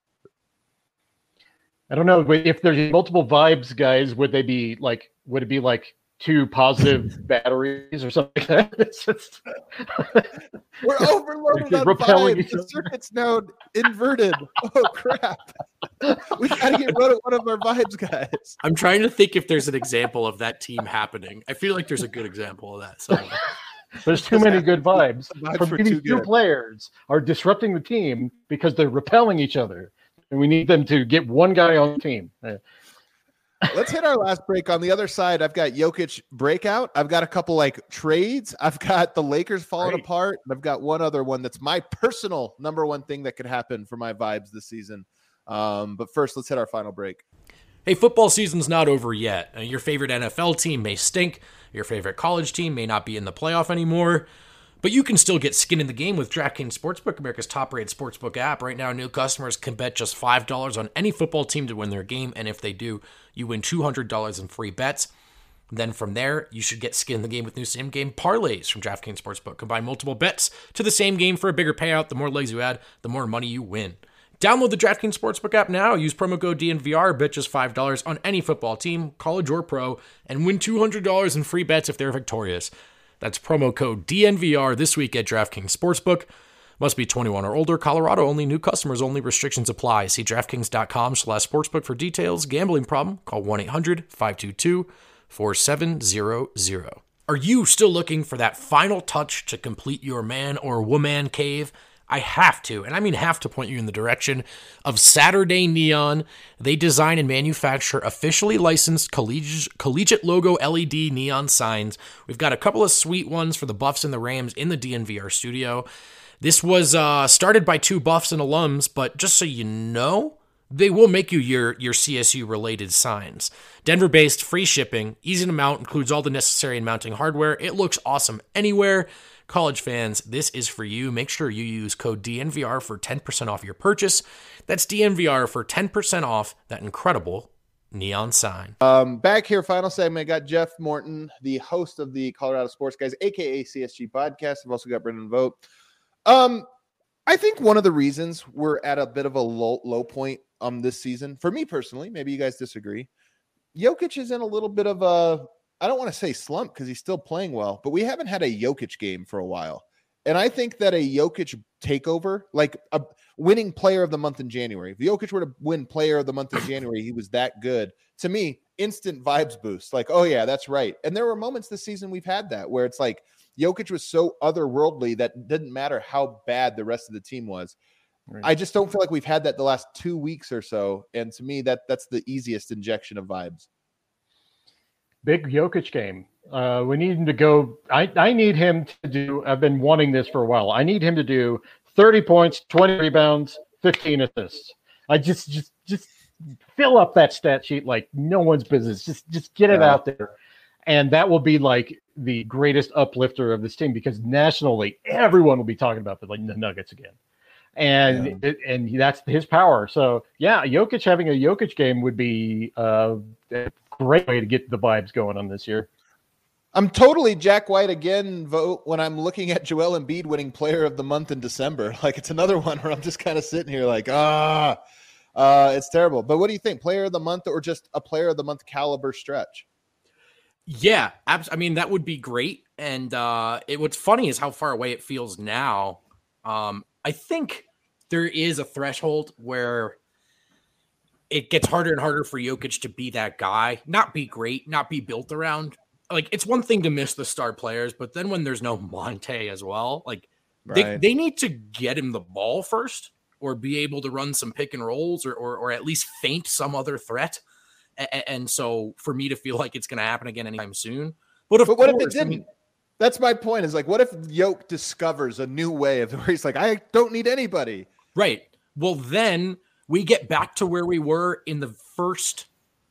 I don't know. If there's multiple vibes guys, would it be like 2 positive batteries or something like that? It's just we're overloaded on vibes. The circuit's now inverted. Oh crap. We gotta get rid of one of our vibes guys. I'm trying to think if there's an example of that team happening. I feel like there's a good example of that. So there's too many good vibes. These 2 players are disrupting the team because they're repelling each other. And we need them to get one guy on the team. Let's hit our last break. On the other side, I've got Jokic breakout. I've got a couple like trades. I've got the Lakers falling apart. And I've got one other one that's my personal number one thing that could happen for my vibes this season. But first, let's hit our final break. Hey, football season's not over yet. Your favorite NFL team may stink. Your favorite college team may not be in the playoff anymore. But you can still get skin in the game with DraftKings Sportsbook, America's top-rated sportsbook app. Right now, new customers can bet just $5 on any football team to win their game. And if they do, you win $200 in free bets. Then from there, you should get skin in the game with new same-game parlays from DraftKings Sportsbook. Combine multiple bets to the same game for a bigger payout. The more legs you add, the more money you win. Download the DraftKings Sportsbook app now. Use promo code DNVR. Bet just $5 on any football team, college or pro, and win $200 in free bets if they're victorious. That's promo code DNVR this week at DraftKings Sportsbook. Must be 21 or older. Colorado only. New customers only. Restrictions apply. See DraftKings.com/sportsbook for details. Gambling problem? Call 1-800-522-4700. Are you still looking for that final touch to complete your man or woman cave? I have to, and I mean have to, point you in the direction of Saturday Neon. They design and manufacture officially licensed collegiate logo LED neon signs. We've got a couple of sweet ones for the Buffs and the Rams in the DNVR studio. This was started by two Buffs and alums, but just so you know, they will make you your CSU-related signs. Denver-based, free shipping, easy to mount, includes all the necessary and mounting hardware. It looks awesome anywhere. College fans, this is for you. Make sure you use code DNVR for 10% off your purchase. That's DNVR for 10% off that incredible neon sign. Back here, final segment. Got Jeff Morton, the host of the Colorado Sports Guys, aka CSG podcast. I've also got Brendan Vogt. I think one of the reasons we're at a bit of a low point this season, for me personally, maybe you guys disagree, Jokic is in a little bit of a, I don't want to say slump because he's still playing well, but we haven't had a Jokic game for a while. And I think that a Jokic takeover, like a winning player of the month in January, if Jokic were to win player of the month in January, he was that good. To me, instant vibes boost. Like, oh yeah, that's right. And there were moments this season we've had that where it's like Jokic was so otherworldly that didn't matter how bad the rest of the team was. Right. I just don't feel like we've had that the last 2 weeks or so. And to me, that's the easiest injection of vibes. Big Jokic game. We need him to go. I need him to do. I've been wanting this for a while. I need him to do 30 points, 20 rebounds, 15 assists. I just fill up that stat sheet like no one's business. Just get it out there, and that will be like the greatest uplifter of this team because nationally everyone will be talking about the Nuggets again, and and that's his power. So yeah, Jokic having a Jokic game would be great way to get the vibes going on this year. I'm totally Jack White again vote when I'm looking at Joel Embiid winning player of the month in December. Like it's another one where I'm just kind of sitting here like, it's terrible. But what do you think? Player of the month or just a player of the month caliber stretch? Yeah, I mean, that would be great. And what's funny is how far away it feels now. I think there is a threshold where it gets harder and harder for Jokic to be that guy, not be great, not be built around. Like, it's one thing to miss the star players, but then when there's no Monte as well, like they need to get him the ball first or be able to run some pick and rolls or at least feint some other threat. And so for me to feel like it's going to happen again anytime soon. But what if it didn't? That's my point is like, what if Jokic discovers a new way of where he's like, I don't need anybody. Right. Well, then we get back to where we were in the first,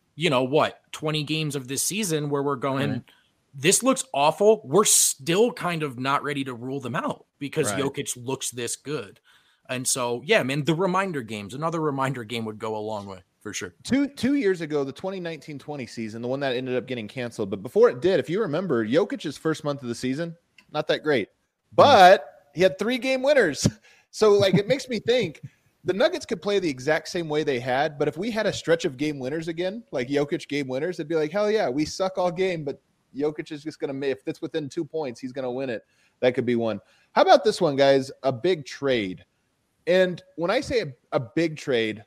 20 games of this season where we're going, this looks awful. We're still kind of not ready to rule them out because Jokic looks this good. And so, yeah, man, another reminder game would go a long way for sure. Two years ago, the 2019-20 season, the one that ended up getting canceled. But before it did, if you remember, Jokic's first month of the season, not that great. But he had 3 game winners. So, like, it makes me think the Nuggets could play the exact same way they had. But if we had a stretch of game winners again, like Jokic game winners, it'd be like, hell yeah, we suck all game. But Jokic is just going to, if it's within 2 points, he's going to win it. That could be one. How about this one, guys? A big trade. And when I say a big trade,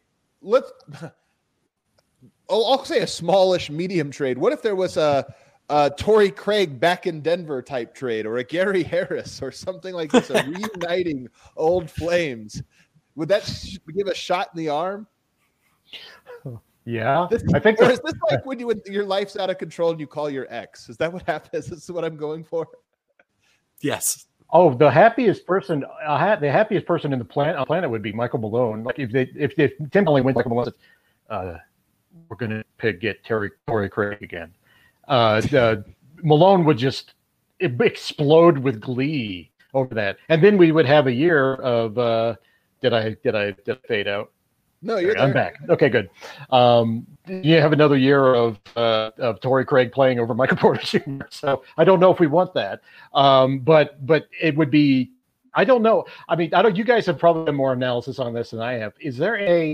I'll say a smallish medium trade. What if there was a Torrey Craig back in Denver type trade or a Gary Harris or something like this, a reuniting old flames? Would that give a shot in the arm? Yeah. I think. Or is this like when your life's out of control and you call your ex? Is that what happens? Is this what I'm going for? Yes. Oh, the happiest person in the planet would be Michael Malone. Like if Tim only went Michael Malone says, we're going to get Torrey Craig again. Malone would just explode with glee over that, and then we would have a year of did I fade out? No, you're there. I'm back. Okay, good. You have another year of Torrey Craig playing over Michael Porter Jr. So I don't know if we want that, but it would be. I don't know. I mean, you guys have probably done more analysis on this than I have. Is there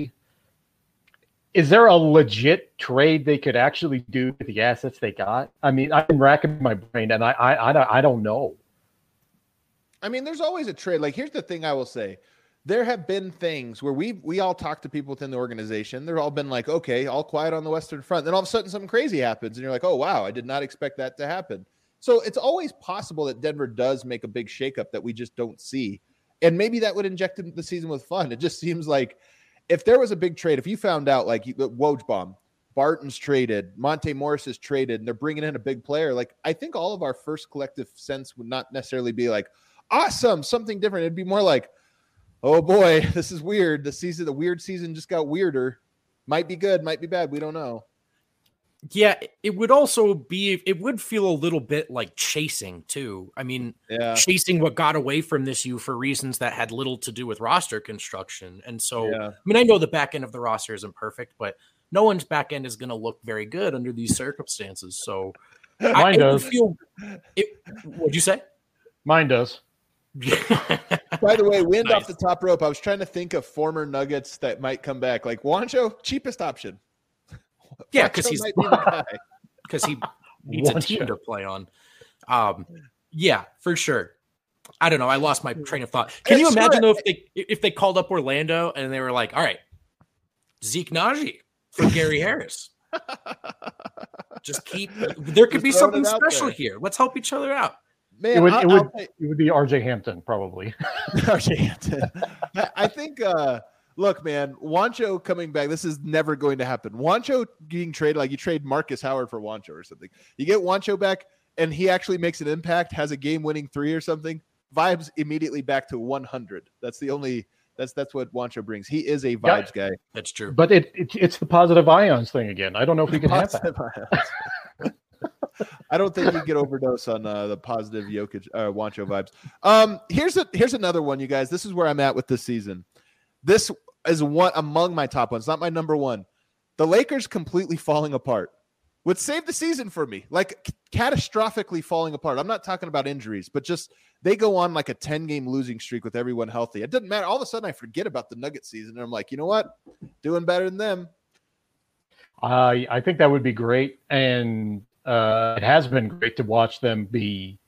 a legit trade they could actually do with the assets they got? I mean, I've been racking my brain, and I don't know. I mean, there's always a trade. Like, here's the thing I will say. There have been things where we all talk to people within the organization. They've all been like, okay, all quiet on the Western Front. Then all of a sudden something crazy happens, and you're like, oh, wow, I did not expect that to happen. So it's always possible that Denver does make a big shakeup that we just don't see. And maybe that would inject the season with fun. It just seems like if there was a big trade, if you found out like Wojbomb, Barton's traded, Monte Morris is traded, and they're bringing in a big player, like I think all of our first collective sense would not necessarily be like, awesome, something different. It'd be more like, oh boy, this is weird. The weird season just got weirder. Might be good, might be bad. We don't know. Yeah, it would feel a little bit like chasing too. I mean, chasing what got away from this U for reasons that had little to do with roster construction. And so, I mean, I know the back end of the roster isn't perfect, but no one's back end is going to look very good under these circumstances. So mine does. What'd you say? Mine does. By the way, wind off the top rope. I was trying to think of former Nuggets that might come back. Like Juancho, cheapest option. Yeah, because he needs a team to play on. Yeah, for sure. I don't know. I lost my train of thought. Can you imagine though if they called up Orlando and they were like, all right, Zeke Naji for Gary Harris. There could be something special here. Let's help each other out. Man, it would be RJ Hampton, probably. RJ Hampton. I think, look, man, Juancho coming back, this is never going to happen. Juancho getting traded, like you trade Marcus Howard for Juancho or something. You get Juancho back, and he actually makes an impact, has a game-winning 3 or something. Vibes immediately back to 100. That's what Juancho brings. He is a vibes guy. That's true. But it's the positive ions thing again. I don't know if we can have that. I don't think you get overdose on the positive Jokic Juancho vibes. Here's another one, you guys. This is where I'm at with this season. This is one among my top ones, not my number one. The Lakers completely falling apart would save the season for me, like catastrophically falling apart. I'm not talking about injuries, but just they go on like a 10-game losing streak with everyone healthy. It doesn't matter. All of a sudden, I forget about the Nuggets season, and I'm like, you know what? Doing better than them. I think that would be great, and it has been great to watch them be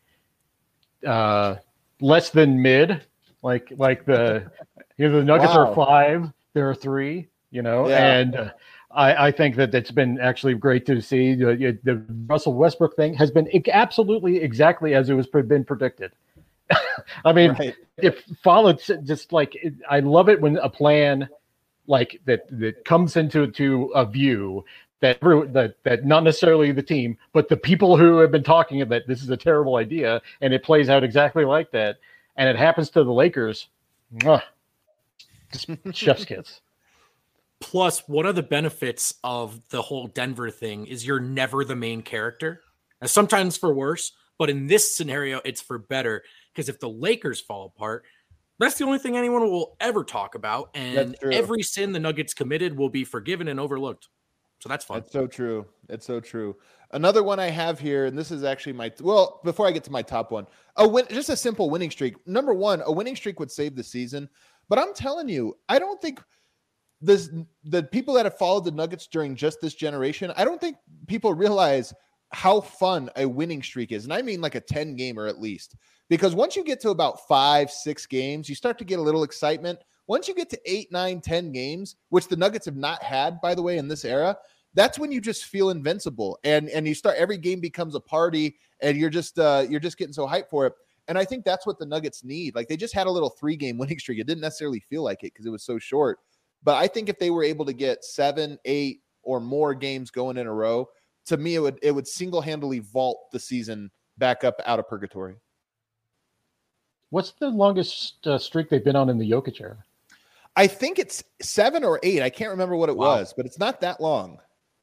less than mid, like the Nuggets are 5, there are 3, and I think that it's been actually great to see. The Russell Westbrook thing has been absolutely exactly as it was been predicted. I mean, It followed just like I love it when a plan like that comes into a view that not necessarily the team, but the people who have been talking about this is a terrible idea, and it plays out exactly like that, and it happens to the Lakers. Just chef's kiss. Plus, one of the benefits of the whole Denver thing is you're never the main character. Now, sometimes for worse, but in this scenario, it's for better. Because if the Lakers fall apart, that's the only thing anyone will ever talk about. And every sin the Nuggets committed will be forgiven and overlooked. So that's fun. That's so true. It's so true. Another one I have here, and this is actually before I get to my top one, just a simple winning streak. Number one, a winning streak would save the season. But I'm telling you, I don't think the people that have followed the Nuggets during just this generation, I don't think people realize how fun a winning streak is. And I mean like a 10-gamer at least. Because once you get to about 5-6 games, you start to get a little excitement. Once you get to 8, 9, 10 games, which the Nuggets have not had, by the way, in this era, that's when you just feel invincible. And you start, every game becomes a party, and you're just getting so hyped for it. And I think that's what the Nuggets need. Like, they just had a little 3-game winning streak. It didn't necessarily feel like it because it was so short. But I think if they were able to get 7, 8, or more games going in a row, to me, it would single-handedly vault the season back up out of purgatory. What's the longest streak they've been on in the Jokic era? I think it's 7 or 8. I can't remember what it was, but it's not that long.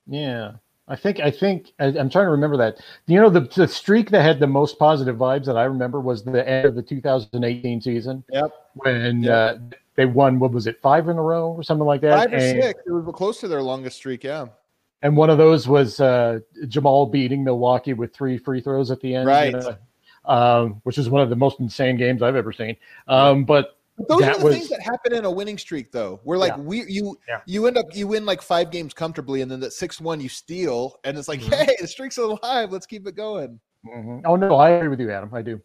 Yeah. I'm trying to remember that. The streak that had the most positive vibes that I remember was the end of the 2018 season. Yep. When they won, what was it, 5 in a row or something like that? 5 or 6. It was close to their longest streak. Yeah. And one of those was Jamal beating Milwaukee with 3 free throws at the end, right? Which is one of the most insane games I've ever seen. But those are the things that happen in a winning streak, though. We're like, you win like 5 games comfortably, and then that 6-1 you steal, and it's like, hey, the streak's alive. Let's keep it going. Mm-hmm. Oh no, I agree with you, Adam. I do.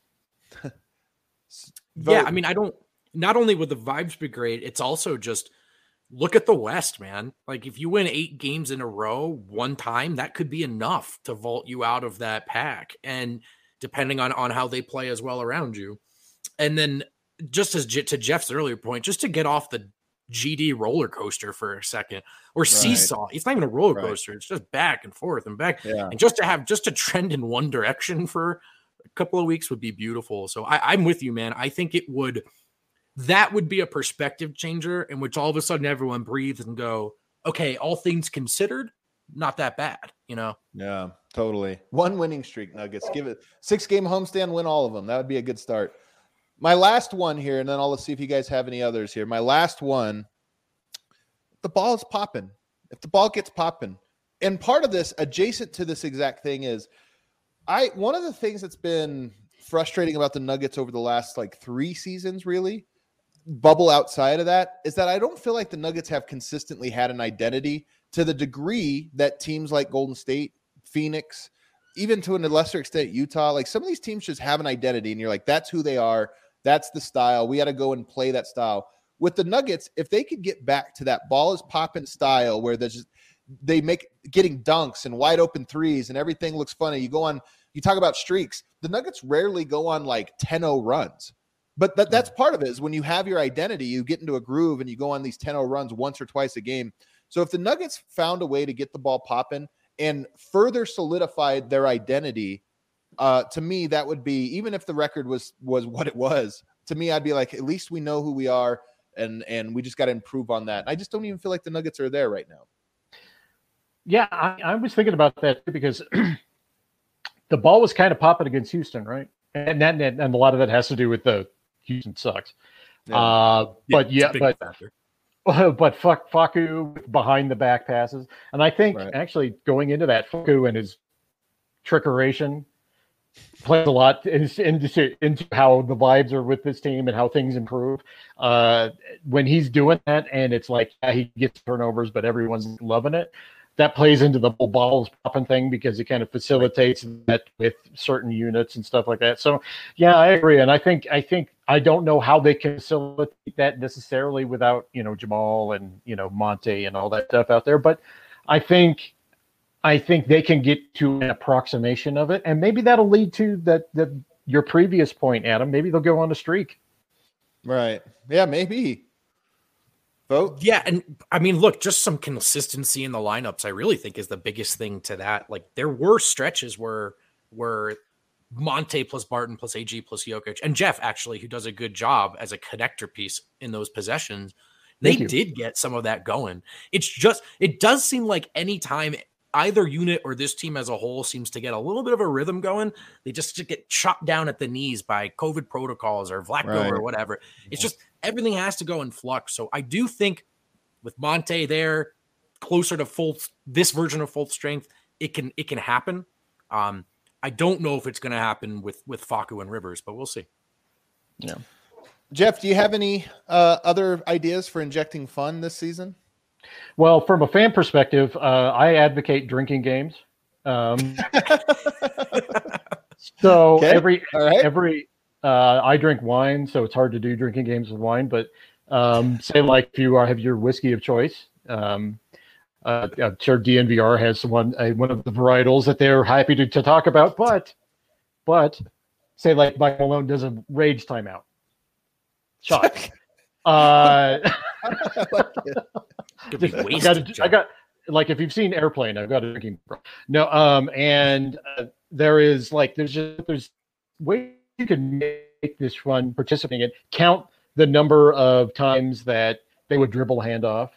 Yeah, I mean, I don't. Not only would the vibes be great, it's also just look at the West, man. Like if you win 8 games in a row one time, that could be enough to vault you out of that pack, and depending on how they play as well around you, and then. Just as to Jeff's earlier point, just to get off the GD roller coaster for a second, or seesaw. It's not even a roller coaster. It's just back and forth and back. Yeah. And just to trend in one direction for a couple of weeks would be beautiful. So I'm with you, man. I think that would be a perspective changer in which all of a sudden everyone breathes and go, okay, all things considered, not that bad, Yeah, totally. 1 winning streak, Nuggets. Give it 6-game homestand, win all of them. That would be a good start. My last one here, and then I'll see if you guys have any others here. My last one, the ball is popping. If the ball gets popping. And part of this, adjacent to this exact thing is, one of the things that's been frustrating about the Nuggets over the last 3 seasons, really, bubble outside of that, is that I don't feel like the Nuggets have consistently had an identity to the degree that teams like Golden State, Phoenix, even to a lesser extent, Utah, like some of these teams just have an identity, and you're like, that's who they are. That's the style. We got to go and play that style. With the Nuggets, if they could get back to that ball is popping style where they make getting dunks and wide open threes and everything looks funny. You talk about streaks. The Nuggets rarely go on 10-0 runs. But that's part of it is when you have your identity, you get into a groove and you go on these 10-0 runs once or twice a game. So if the Nuggets found a way to get the ball popping and further solidified their identity, to me, that would be, even if the record was what it was, to me, I'd be like, at least we know who we are, and we just got to improve on that. I just don't even feel like the Nuggets are there right now. Yeah, I was thinking about that too, because the ball was kind of popping against Houston, right? And a lot of that has to do with the Houston sucks. Yeah. But Facu behind the back passes, and I think actually going into that, Facu and his trickeration plays a lot into how the vibes are with this team and how things improve. When he's doing that, and it's like he gets turnovers, but everyone's loving it. That plays into the whole balls popping thing because it kind of facilitates that with certain units and stuff like that. So, yeah, I agree, and I think I don't know how they can facilitate that necessarily without Jamal and Monte and all that stuff out there, but I think they can get to an approximation of it, and maybe that'll lead to that your previous point, Adam. Maybe they'll go on a streak. Right. Yeah, maybe. Vote. Yeah, and I mean, look, just some consistency in the lineups, I really think is the biggest thing to that. Like there were stretches where Monte plus Barton plus AG plus Jokic and Jeff, actually, who does a good job as a connector piece in those possessions, they did get some of that going. It's just, it does seem like anytime either unit or this team as a whole seems to get a little bit of a rhythm going, they just get chopped down at the knees by COVID protocols or Vlatko or whatever. It's just everything has to go in flux. So I do think with Monte there, closer to this version of full strength, it can happen. I don't know if it's going to happen with Facu and Rivers, but we'll see. Yeah. Jeff, do you have any other ideas for injecting fun this season? Well, from a fan perspective, I advocate drinking games. So every I drink wine, so it's hard to do drinking games with wine. But say like if you have your whiskey of choice, I'm sure DNVR has one of the varietals that they're happy to talk about. But say like Mike Malone does a rage timeout shot. I got like if you've seen Airplane, I've got a drinking problem. No, and there is like there's ways you can make this fun participating in. Count the number of times that they would dribble a handoff,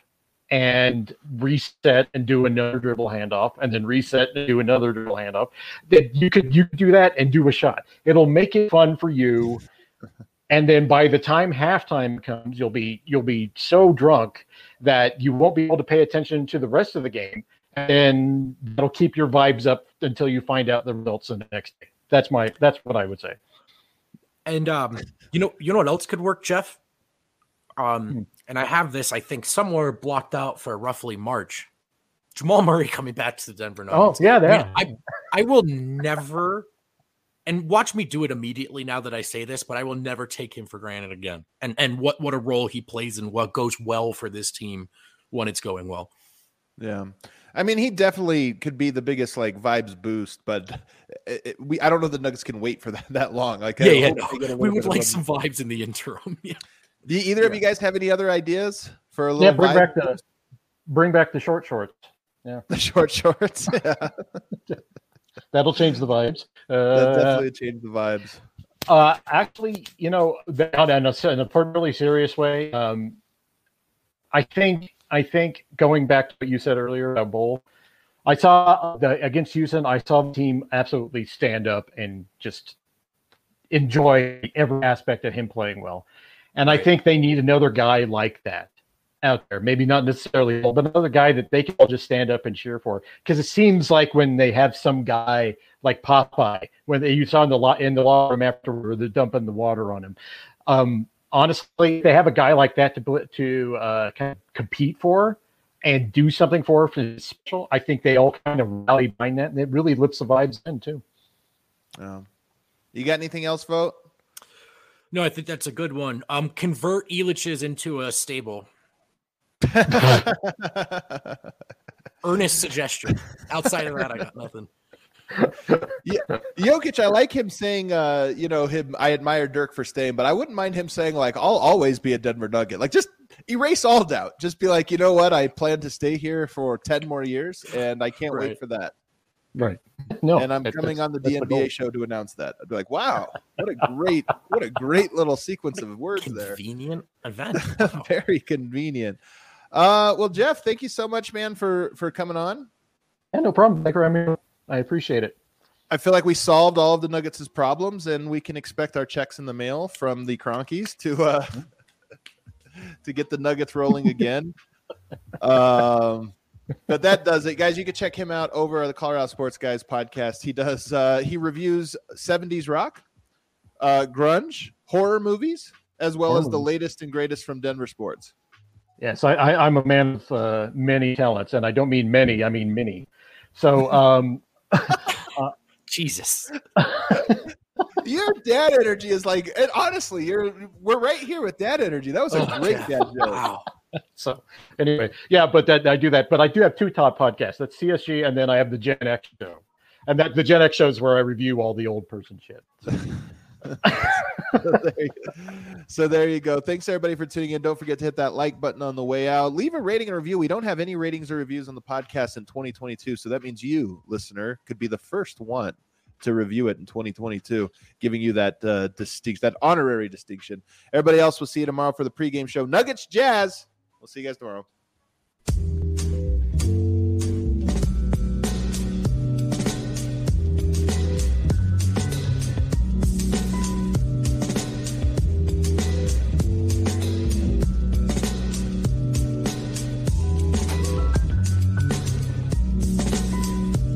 and reset and do another dribble handoff, and then reset and do another dribble handoff. That you could do that and do a shot. It'll make it fun for you. And then by the time halftime comes, you'll be so drunk that you won't be able to pay attention to the rest of the game, and that'll keep your vibes up until you find out the results the next day. That's what I would say. And you know what else could work, Jeff? And I have this, I think, somewhere blocked out for roughly March. Jamal Murray coming back to the Denver Nuggets. Oh yeah. I will never. And watch me do it immediately now that I say this, but I will never take him for granted again. And what a role he plays and what goes well for this team when it's going well. Yeah. I mean, he definitely could be the biggest like vibes boost, but I don't know the Nuggets can wait for that long. Like, we would like some vibes in the interim. Yeah. Do either of you guys have any other ideas for a little? Bring back the short shorts. Yeah, the short shorts. Yeah. That'll change the vibes. That definitely changed the vibes. Actually, in a really serious way, I think going back to what you said earlier about Bull, I saw against Houston, I saw the team absolutely stand up and just enjoy every aspect of him playing well. And I think they need another guy like that out there. Maybe not necessarily, but another guy that they can all just stand up and cheer for. Because it seems like when they have some guy like Popeye, when you saw in the locker room afterward, they're dumping the water on him. Honestly, they have a guy like that to kind of compete for and do something for special. I think they all kind of rally behind that, and it really lifts the vibes in too. You got anything else, Vote? No, I think that's a good one. Convert Elitch's into a stable. Earnest suggestion. Outside of that, I got nothing. Yeah, Jokic, I like him saying, I admire Dirk for staying, but I wouldn't mind him saying, like, I'll always be a Denver Nugget. Like, just erase all doubt. Just be like, you know what? I plan to stay here for 10 more years, and I can't wait for that. Right. No. And I'm coming on the DNBA show to announce that. I'd be like, wow, what a great little sequence of words there. Convenient event. Wow. Very convenient. Well, Jeff, thank you so much, man, for coming on. Yeah, no problem. Thank you for having me. I appreciate it. I feel like we solved all of the Nuggets' problems, and we can expect our checks in the mail from the Cronkies to get the Nuggets rolling again. But that does it, guys. You can check him out over at the Colorado Sports Guys podcast. He reviews 70s rock, grunge, horror movies, as well as the latest and greatest from Denver sports. Yes, I'm a man of many talents, and I don't mean many, I mean many. So, Jesus. Your dad energy is like, and honestly, we're right here with dad energy. That was a great dad joke. Wow. So anyway, yeah, but I do that. But I do have two top podcasts. That's CSG, and then I have the Gen X show. And the Gen X show is where I review all the old person shit. So there you go. Thanks everybody for tuning in. Don't forget to hit that like button on the way out. Leave a rating and review. We don't have any ratings or reviews on the podcast in 2022, so that means you, listener, could be the first one to review it in 2022, giving you that that honorary distinction. Everybody else, we'll see you tomorrow for the pregame show. Nuggets Jazz. We'll see you guys tomorrow.